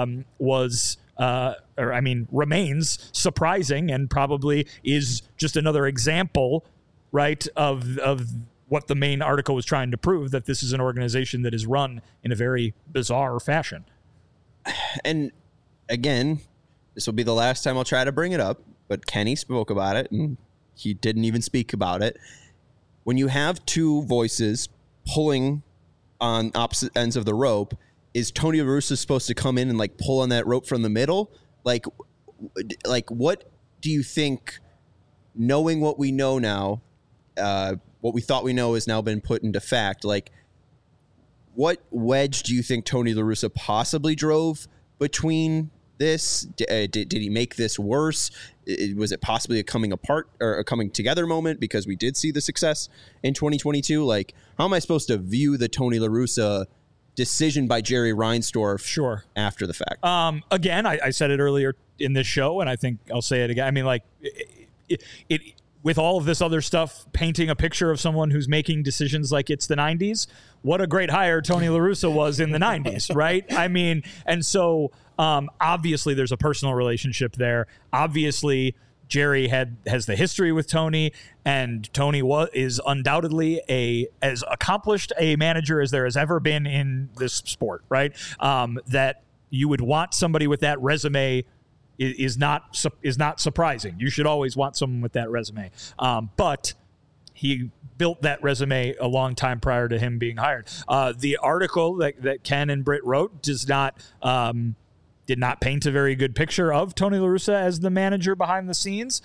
remains surprising, and probably is just another example, right, of what the main article was trying to prove, that this is an organization that is run in a very bizarre fashion. And again, this will be the last time I'll try to bring it up, but Kenny spoke about it and he didn't even speak about it. When you have two voices pulling on opposite ends of the rope, is Tony La Russa supposed to come in and like pull on that rope from the middle? Like what do you think, knowing what we know now, what we thought we know has now been put into fact, like what wedge do you think Tony La Russa possibly drove between this? Did he make this worse? Was it possibly a coming apart or a coming together moment because we did see the success in 2022? Like, how am I supposed to view the Tony La Russa decision by Jerry Reinsdorf after the fact? Again, I said it earlier in this show, and I think I'll say it again. I mean, like, it with all of this other stuff, painting a picture of someone who's making decisions like it's the 90s, what a great hire Tony La Russa was in the 90s, right? I mean, and so obviously there's a personal relationship there. Obviously, Jerry has the history with Tony, and Tony is undoubtedly as accomplished a manager as there has ever been in this sport, right? That you would want somebody with that resume is not surprising. You should always want someone with that resume. But he built that resume a long time prior to him being hired. The article that Ken and Britt wrote did not paint a very good picture of Tony La Russa as the manager behind the scenes.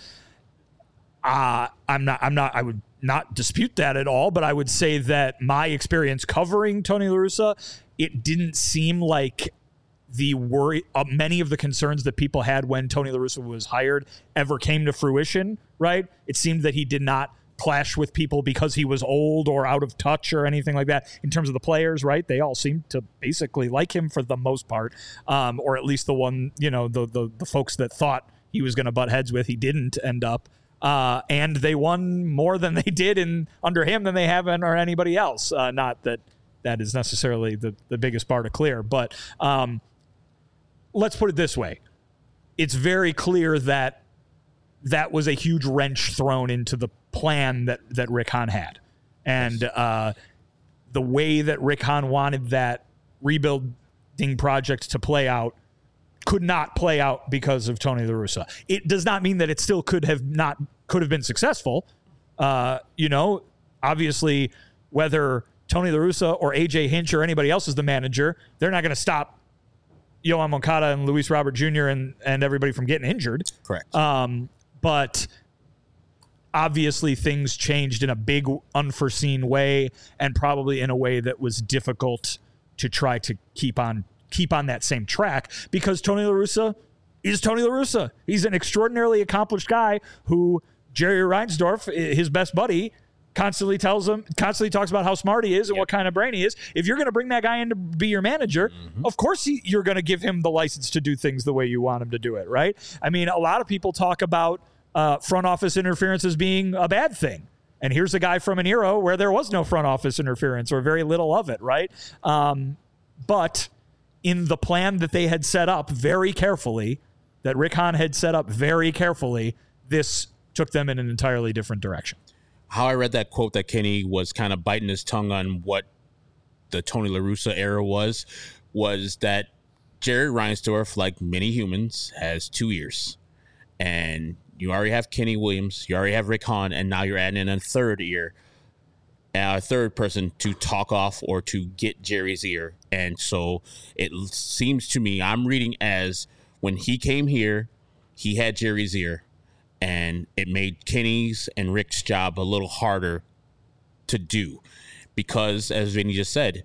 I would not dispute that at all, but I would say that my experience covering Tony La Russa, it didn't seem like the worry many of the concerns that people had when Tony La Russa was hired ever came to fruition, right? It seemed that he did not clash with people because he was old or out of touch or anything like that. In terms of the players, right, they all seemed to basically like him for the most part, or at least the one, you know, the folks that thought he was going to butt heads with, he didn't end up, and they won more than they did under him than they have or anybody else. Not that is necessarily the biggest bar to clear, but let's put it this way. It's very clear that was a huge wrench thrown into the plan that Rick Hahn had. And the way that Rick Hahn wanted that rebuilding project to play out could not play out because of Tony La Russa. It does not mean that it still could have been successful. You know, obviously, whether Tony La Russa or AJ Hinch or anybody else is the manager, they're not going to stop Yoán Moncada and Luis Robert Jr. and everybody from getting injured. Correct. But obviously things changed in a big unforeseen way, and probably in a way that was difficult to try to keep on that same track, because Tony La Russa is Tony La Russa. He's an extraordinarily accomplished guy who Jerry Reinsdorf, his best buddy, constantly talks about how smart he is and what kind of brain he is. If you're going to bring that guy in to be your manager, of course you're going to give him the license to do things the way you want him to do it, right? I mean, a lot of people talk about front office interference as being a bad thing. And here's a guy from an era where there was no front office interference or very little of it, right? But in the plan that they had set up very carefully, that Rick Hahn had set up very carefully, this took them in an entirely different direction. How I read that quote that Kenny was kind of biting his tongue on what the Tony La Russa era was that Jerry Reinsdorf, like many humans, has 2 ears. And You already have Kenny Williams. You already have Rick Hahn. And now you're adding in a third person to talk off or to get Jerry's ear. And so it seems to me, I'm reading as when he came here, he had Jerry's ear. And it made Kenny's and Rick's job a little harder to do. Because, as Vinny just said,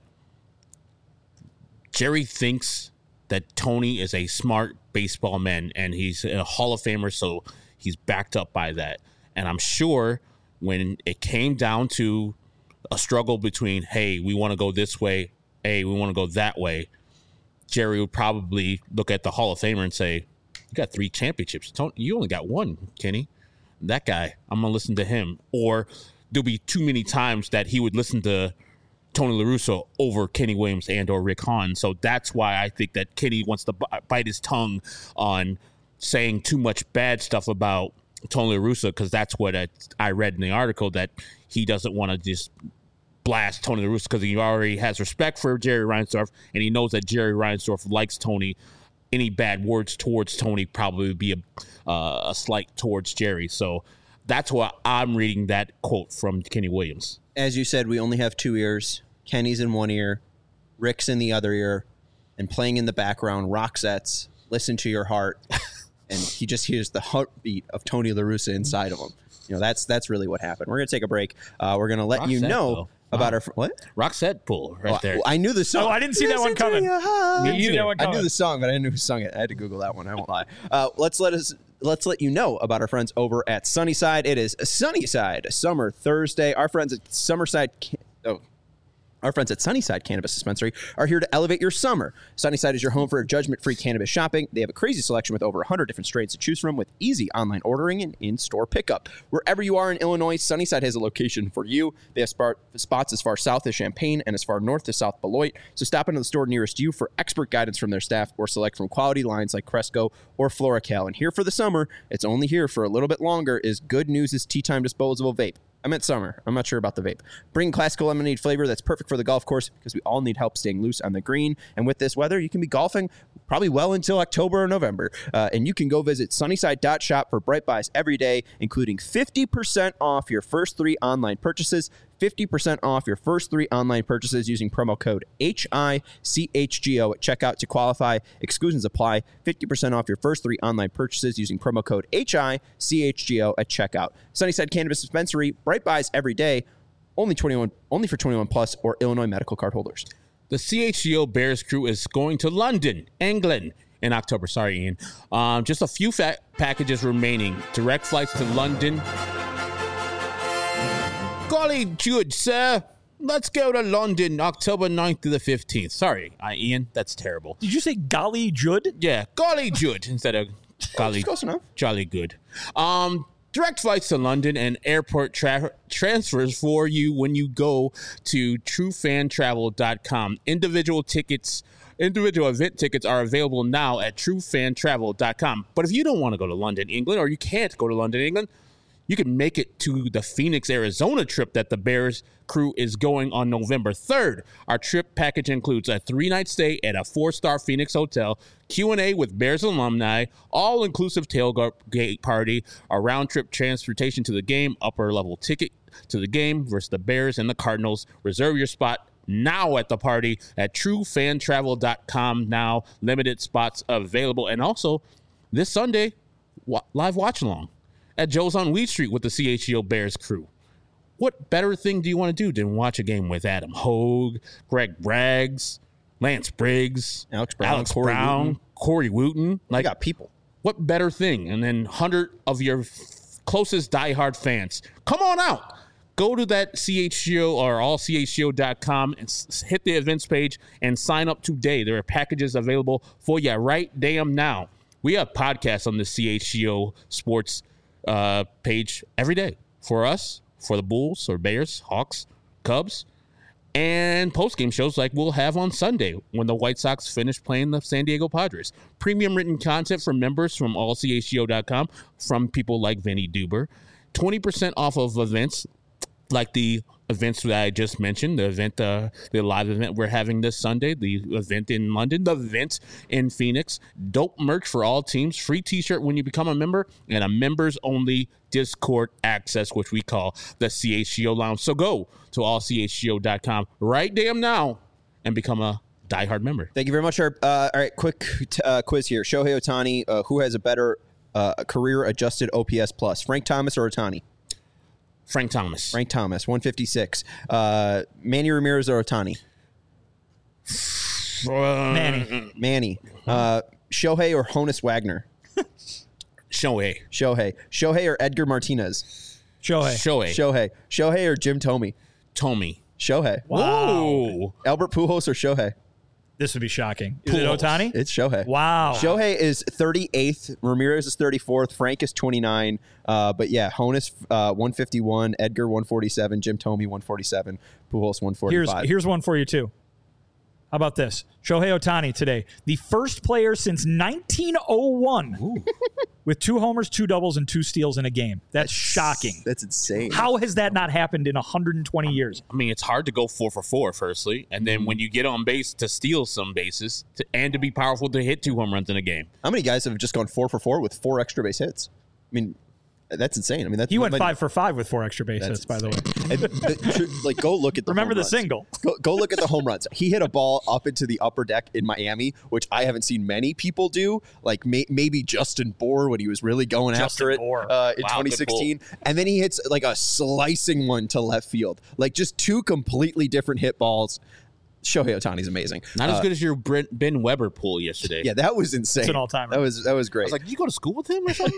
Jerry thinks that Tony is a smart baseball man, and he's a Hall of Famer, so he's backed up by that. And I'm sure when it came down to a struggle between, hey, we want to go this way, hey, we want to go that way, Jerry would probably look at the Hall of Famer and say, you got 3 championships. Tony, you only got 1, Kenny. That guy, I'm going to listen to him. Or there'll be too many times that he would listen to Tony La Russa over Kenny Williams and or Rick Hahn. So that's why I think that Kenny wants to bite his tongue on saying too much bad stuff about Tony La Russa, because that's what I read in the article, that he doesn't want to just blast Tony La Russa because he already has respect for Jerry Reinsdorf, and he knows that Jerry Reinsdorf likes Tony. Any bad words towards Tony probably would be a slight towards Jerry. So that's why I'm reading that quote from Kenny Williams. As you said, we only have 2 ears. Kenny's in one ear, Rick's in the other ear, and playing in the background, rock sets, Listen to Your Heart, and he just hears the heartbeat of Tony La Russa inside of him. You know, that's really what happened. We're going to take a break. We're going to let you know about our... What? Roxette pull right there. I knew the song. Oh, I didn't see that one coming. Me either. I knew the song, but I didn't know who sung it. I had to Google that one. I won't lie. Let's let you know about our friends over at Sunnyside. It is Sunnyside Summer Thursday. Our friends at Sunnyside Cannabis Dispensary are here to elevate your summer. Sunnyside is your home for judgment-free cannabis shopping. They have a crazy selection with over 100 different strains to choose from, with easy online ordering and in-store pickup. Wherever you are in Illinois, Sunnyside has a location for you. They have spots as far south as Champaign and as far north as South Beloit. So stop into the store nearest you for expert guidance from their staff, or select from quality lines like Cresco or FloraCal. And here for the summer, it's only here for a little bit longer, is Good News' Tea Time Disposable Vape. I meant summer. I'm not sure about the vape. Bring classical lemonade flavor that's perfect for the golf course, because we all need help staying loose on the green. And with this weather, you can be golfing probably well until October or November. And you can go visit sunnyside.shop for Bright Buys every day, including 50% off your first 3 online purchases. 50% off your first 3 online purchases using promo code HICHGO at checkout to qualify. Exclusions apply. 50% off your first 3 online purchases using promo code HICHGO at checkout. Sunnyside Cannabis Dispensary, Bright Buys every day. Only for 21 plus or Illinois medical card holders. The CHGO Bears crew is going to London, England in October. Sorry, Ian. Just a few packages remaining. Direct flights to London. Golly good, sir. Let's go to London, October 9th to the 15th. Sorry, Ian. That's terrible. Did you say golly Judd? Yeah, golly Judd instead of golly Close enough. jolly good. Direct flights to London and airport transfers for you when you go to truefantravel.com. Individual event tickets are available now at truefantravel.com. But if you don't want to go to London, England, or you can't go to London, England, you can make it to the Phoenix, Arizona trip that the Bears crew is going on November 3rd. Our trip package includes a 3-night stay at a 4-star Phoenix hotel, Q&A with Bears alumni, all-inclusive tailgate party, a round-trip transportation to the game, upper-level ticket to the game versus the Bears and the Cardinals. Reserve your spot now at the party at truefantravel.com. Now, limited spots available. And also, this Sunday, live watch-along at Joe's on Weed Street with the CHGO Bears crew. What better thing do you want to do than watch a game with Adam Hogue, Greg Braggs, Lance Briggs, Alex Brown, Corey Wooten? Like, got people. What better thing? And then 100 of your closest diehard fans. Come on out. Go to that CHGO or allchgo.com and hit the events page and sign up today. There are packages available for you right damn now. We have podcasts on the CHGO Sports page every day for us, for the Bulls or Bears, Hawks, Cubs, and post-game shows like we'll have on Sunday when the White Sox finish playing the San Diego Padres. Premium written content for members from allchgo.com from people like Vinny Duber. 20% off of events like the events that I just mentioned, the event, the live event we're having this Sunday, the event in London, the event in Phoenix, dope merch for all teams, free t-shirt when you become a member, and a members only Discord access, which we call the CHGO Lounge. So go to allchgo.com right damn now and become a diehard member. Thank you very much. All right, quick quiz here. Shohei Ohtani, who has a better career adjusted OPS plus, Frank Thomas or Ohtani? Frank Thomas. Frank Thomas, 156. Manny Ramirez or Ohtani? Manny. Shohei or Honus Wagner? Shohei. Shohei or Edgar Martinez? Shohei or Jim Thome? Shohei. Wow. Albert Pujols or Shohei? This would be shocking. Is it Ohtani? It's Shohei. Wow. Shohei is 38th. Ramirez is 34th. Frank is 29. But yeah, Honus 151. Edgar 147. Jim Thome 147. Pujols 145. Here's one for you too. How about this? Shohei Ohtani today, the first player since 1901 with 2 homers, 2 doubles, and 2 steals in a game. That's shocking. That's insane. How has that not happened in 120 years? I mean, it's hard to go 4 for 4, firstly. And then when you get on base to steal some bases and to be powerful to hit 2 home runs in a game. How many guys have just gone 4 for 4 with 4 extra base hits? I mean, that's insane. I mean, he went 5 for 5 with 4 extra base hits, by the way. And, go look at the Remember home the runs. single. Go look at the home runs. He hit a ball up into the upper deck in Miami, which I haven't seen many people do. Like maybe Justin Bour when he was really going after it in 2016. And then he hits like a slicing one to left field. Like just 2 completely different hit balls. Shohei Ohtani's amazing. Not as good as your Ben Weber pull yesterday. Yeah, that was insane. It's an all-timer. That was great. I was like, you go to school with him or something?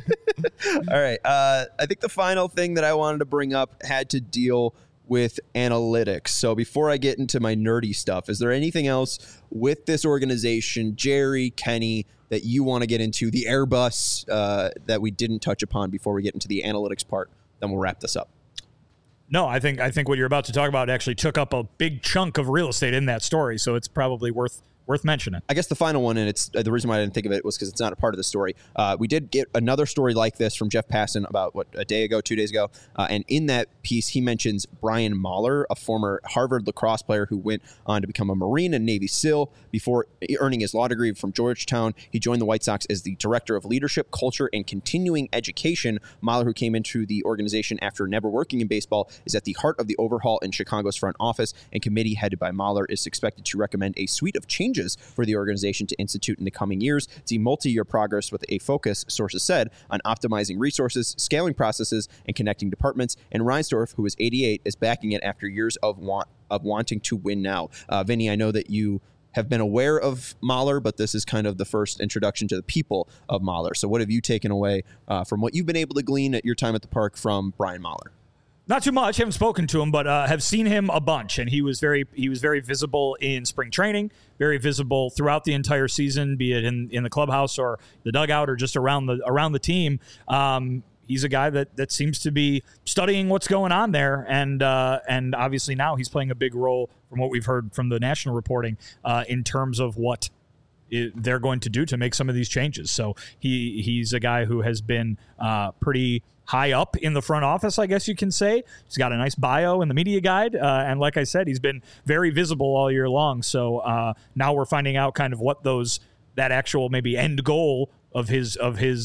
All right. I think the final thing that I wanted to bring up had to deal with analytics. So before I get into my nerdy stuff, is there anything else with this organization, Jerry, Kenny, that you want to get into, the Airbus that we didn't touch upon before we get into the analytics part? Then we'll wrap this up. No, I think what you're about to talk about actually took up a big chunk of real estate in that story, so it's probably worth mentioning. I guess the final one, and it's the reason why I didn't think of it was because it's not a part of the story. We did get another story like this from Jeff Passan about, a day ago, 2 days ago. And in that piece, he mentions Brian Mahler, a former Harvard lacrosse player who went on to become a Marine and Navy SEAL. Before earning his law degree from Georgetown, he joined the White Sox as the director of leadership, culture, and continuing education. Mahler, who came into the organization after never working in baseball, is at the heart of the overhaul in Chicago's front office, and committee headed by Mahler is expected to recommend a suite of changes for the organization to institute in the coming years. It's a multi-year progress with a focus, sources said, on optimizing resources, scaling processes, and connecting departments. And Reinsdorf, who is 88, is backing it after years of wanting to win now. Vinny, I know that you have been aware of Mahler, but this is kind of the first introduction to the people of Mahler. So what have you taken away from what you've been able to glean at your time at the park from Brian Mahler? Not too much. Haven't spoken to him, but have seen him a bunch, and he was very visible in spring training, very visible throughout the entire season, be it in the clubhouse or the dugout or just around the team. He's a guy that seems to be studying what's going on there, and obviously now he's playing a big role from what we've heard from the national reporting in terms of what they're going to do to make some of these changes. So he's a guy who has been pretty high up in the front office, I guess you can say. He's got a nice bio in the media guide. And like I said, he's been very visible all year long. So now we're finding out kind of what that actual maybe end goal of his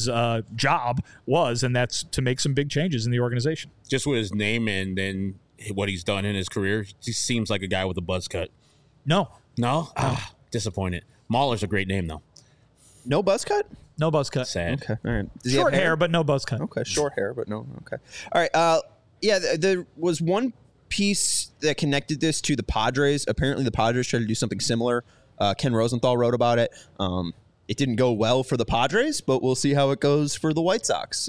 job was, and that's to make some big changes in the organization. Just with his name and then what he's done in his career, he seems like a guy with a buzz cut. No? Disappointed. Mahler's a great name, though. No buzz cut? No buzz cut. Sad. Okay. All right. Short hair, but no buzz cut. Okay. Short hair, but no. Okay. All right. Yeah, there was one piece that connected this to the Padres. Apparently, the Padres tried to do something similar. Ken Rosenthal wrote about it. It didn't go well for the Padres, but we'll see how it goes for the White Sox.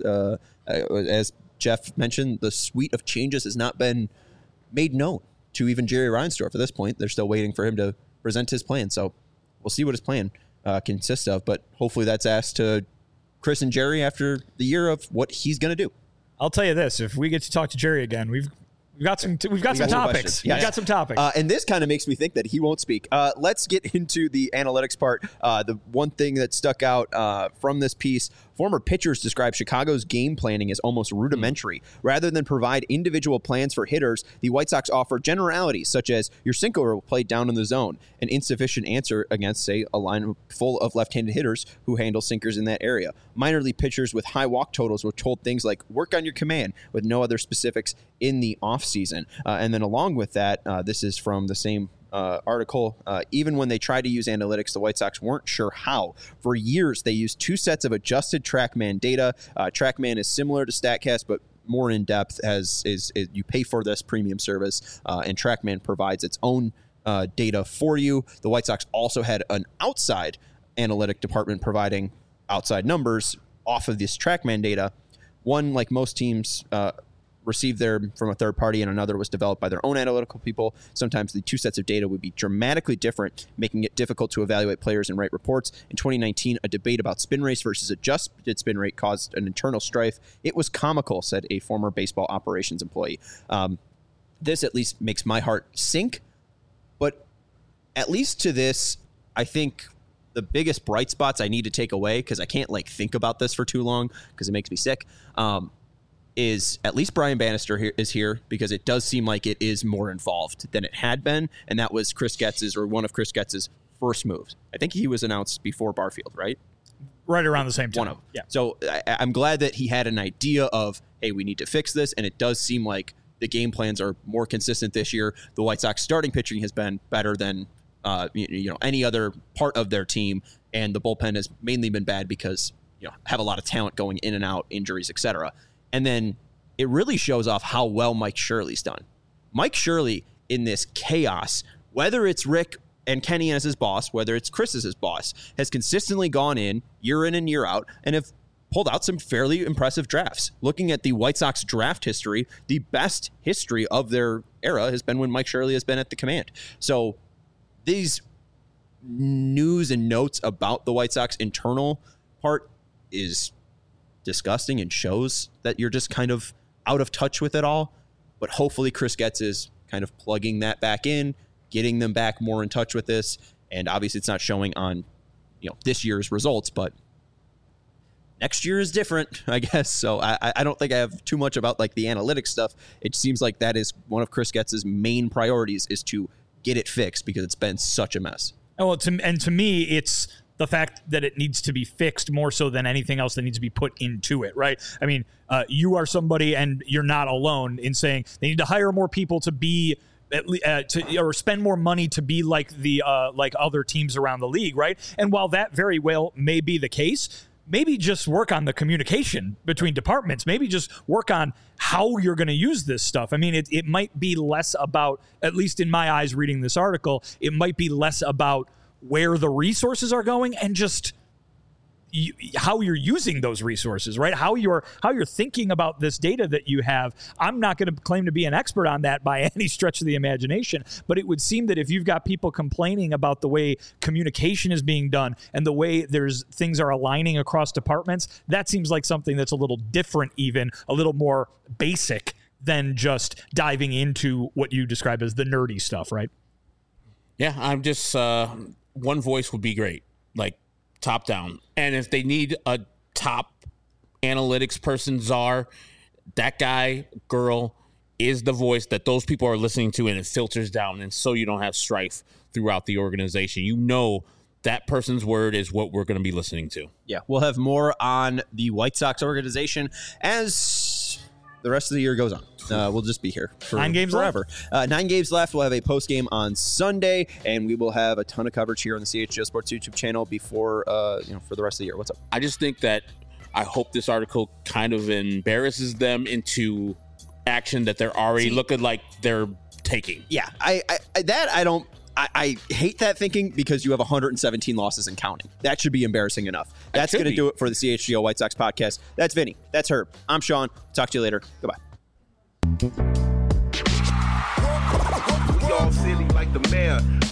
As Jeff mentioned, the suite of changes has not been made known to even Jerry Reinsdorf at this point. They're still waiting for him to present his plan. So we'll see what his plan consists of, but hopefully that's asked to Chris and Jerry after the year of what he's going to do. I'll tell you this, if we get to talk to Jerry again, We've got some topics. Yes. We've got some topics. And this kind of makes me think that he won't speak. Let's get into the analytics part. The one thing that stuck out from this piece, former pitchers describe Chicago's game planning as almost rudimentary. Rather than provide individual plans for hitters, the White Sox offer generalities such as your sinker will play down in the zone, an insufficient answer against, say, a line full of left-handed hitters who handle sinkers in that area. Minor league pitchers with high walk totals were told things like work on your command with no other specifics in the offseason. And then along with that, this is from the same article. Even when they tried to use analytics, the White Sox weren't sure how. For years, they used 2 sets of adjusted TrackMan data. TrackMan is similar to StatCast, but more in depth. You pay for this premium service, and TrackMan provides its own data for you. The White Sox also had an outside analytic department providing outside numbers off of this TrackMan data. One, like most teams, received from a third party, and another was developed by their own analytical people. Sometimes the 2 sets of data would be dramatically different, making it difficult to evaluate players and write reports. In 2019, a debate about spin race versus adjusted spin rate caused an internal strife. It was comical, said a former baseball operations employee. This at least makes my heart sink, but at least to this, I think the biggest bright spots I need to take away, because I can't think about this for too long because it makes me sick, is at least Brian Bannister is here, because it does seem like it is more involved than it had been, and that was one of Chris Getz's first moves. I think he was announced before Barfield, right? Right around the same time. One of them. Yeah. So I'm glad that he had an idea of, hey, we need to fix this, and it does seem like the game plans are more consistent this year. The White Sox starting pitching has been better than any other part of their team, and the bullpen has mainly been bad because have a lot of talent going in and out, injuries, etc. And then it really shows off how well Mike Shirley's done. Mike Shirley, in this chaos, whether it's Rick and Kenny as his boss, whether it's Chris as his boss, has consistently gone in and year out and have pulled out some fairly impressive drafts. Looking at the White Sox draft history, the best history of their era has been when Mike Shirley has been at the command. So these news and notes about the White Sox internal part is disgusting and shows that you're just kind of out of touch with it all. But hopefully Chris Getz is kind of plugging that back in, getting them back more in touch with this. And obviously it's not showing on this year's results, but next year is different, I guess. So I don't think I have too much about the analytics stuff. It seems like that is one of Chris Getz's main priorities, is to get it fixed, because it's been such a mess. Well, to me, it's the fact that it needs to be fixed more so than anything else that needs to be put into it, right? I mean, you are somebody, and you're not alone in saying they need to hire more people to be or spend more money to be like other teams around the league, right? And while that very well may be the case, maybe just work on the communication between departments. Maybe just work on how you're going to use this stuff. I mean, it might be less about, at least in my eyes reading this article, it might be less about where the resources are going and just how you're using those resources, right? How you're thinking about this data that you have. I'm not going to claim to be an expert on that by any stretch of the imagination, but it would seem that if you've got people complaining about the way communication is being done and the way things are aligning across departments, that seems like something that's a little different, even a little more basic than just diving into what you describe as the nerdy stuff, right? Yeah, I'm just one voice would be great, top down. And if they need a top analytics person, czar, that guy, girl, is the voice that those people are listening to, and it filters down. And so you don't have strife throughout the organization. That person's word is what we're going to be listening to. Yeah, we'll have more on the White Sox organization as the rest of the year goes on. We'll just be here for 9 games forever. Left. 9 games left. We'll have a post game on Sunday, and we will have a ton of coverage here on the CHGO Sports YouTube channel before for the rest of the year. What's up? I just think that I hope this article kind of embarrasses them into action that they're already looking like they're taking. Yeah, I hate that thinking, because you have 117 losses and counting. That should be embarrassing enough. That's going to do it for the CHGO White Sox podcast. That's Vinny. That's Herb. I'm Sean. Talk to you later. Goodbye. We all silly like the mayor.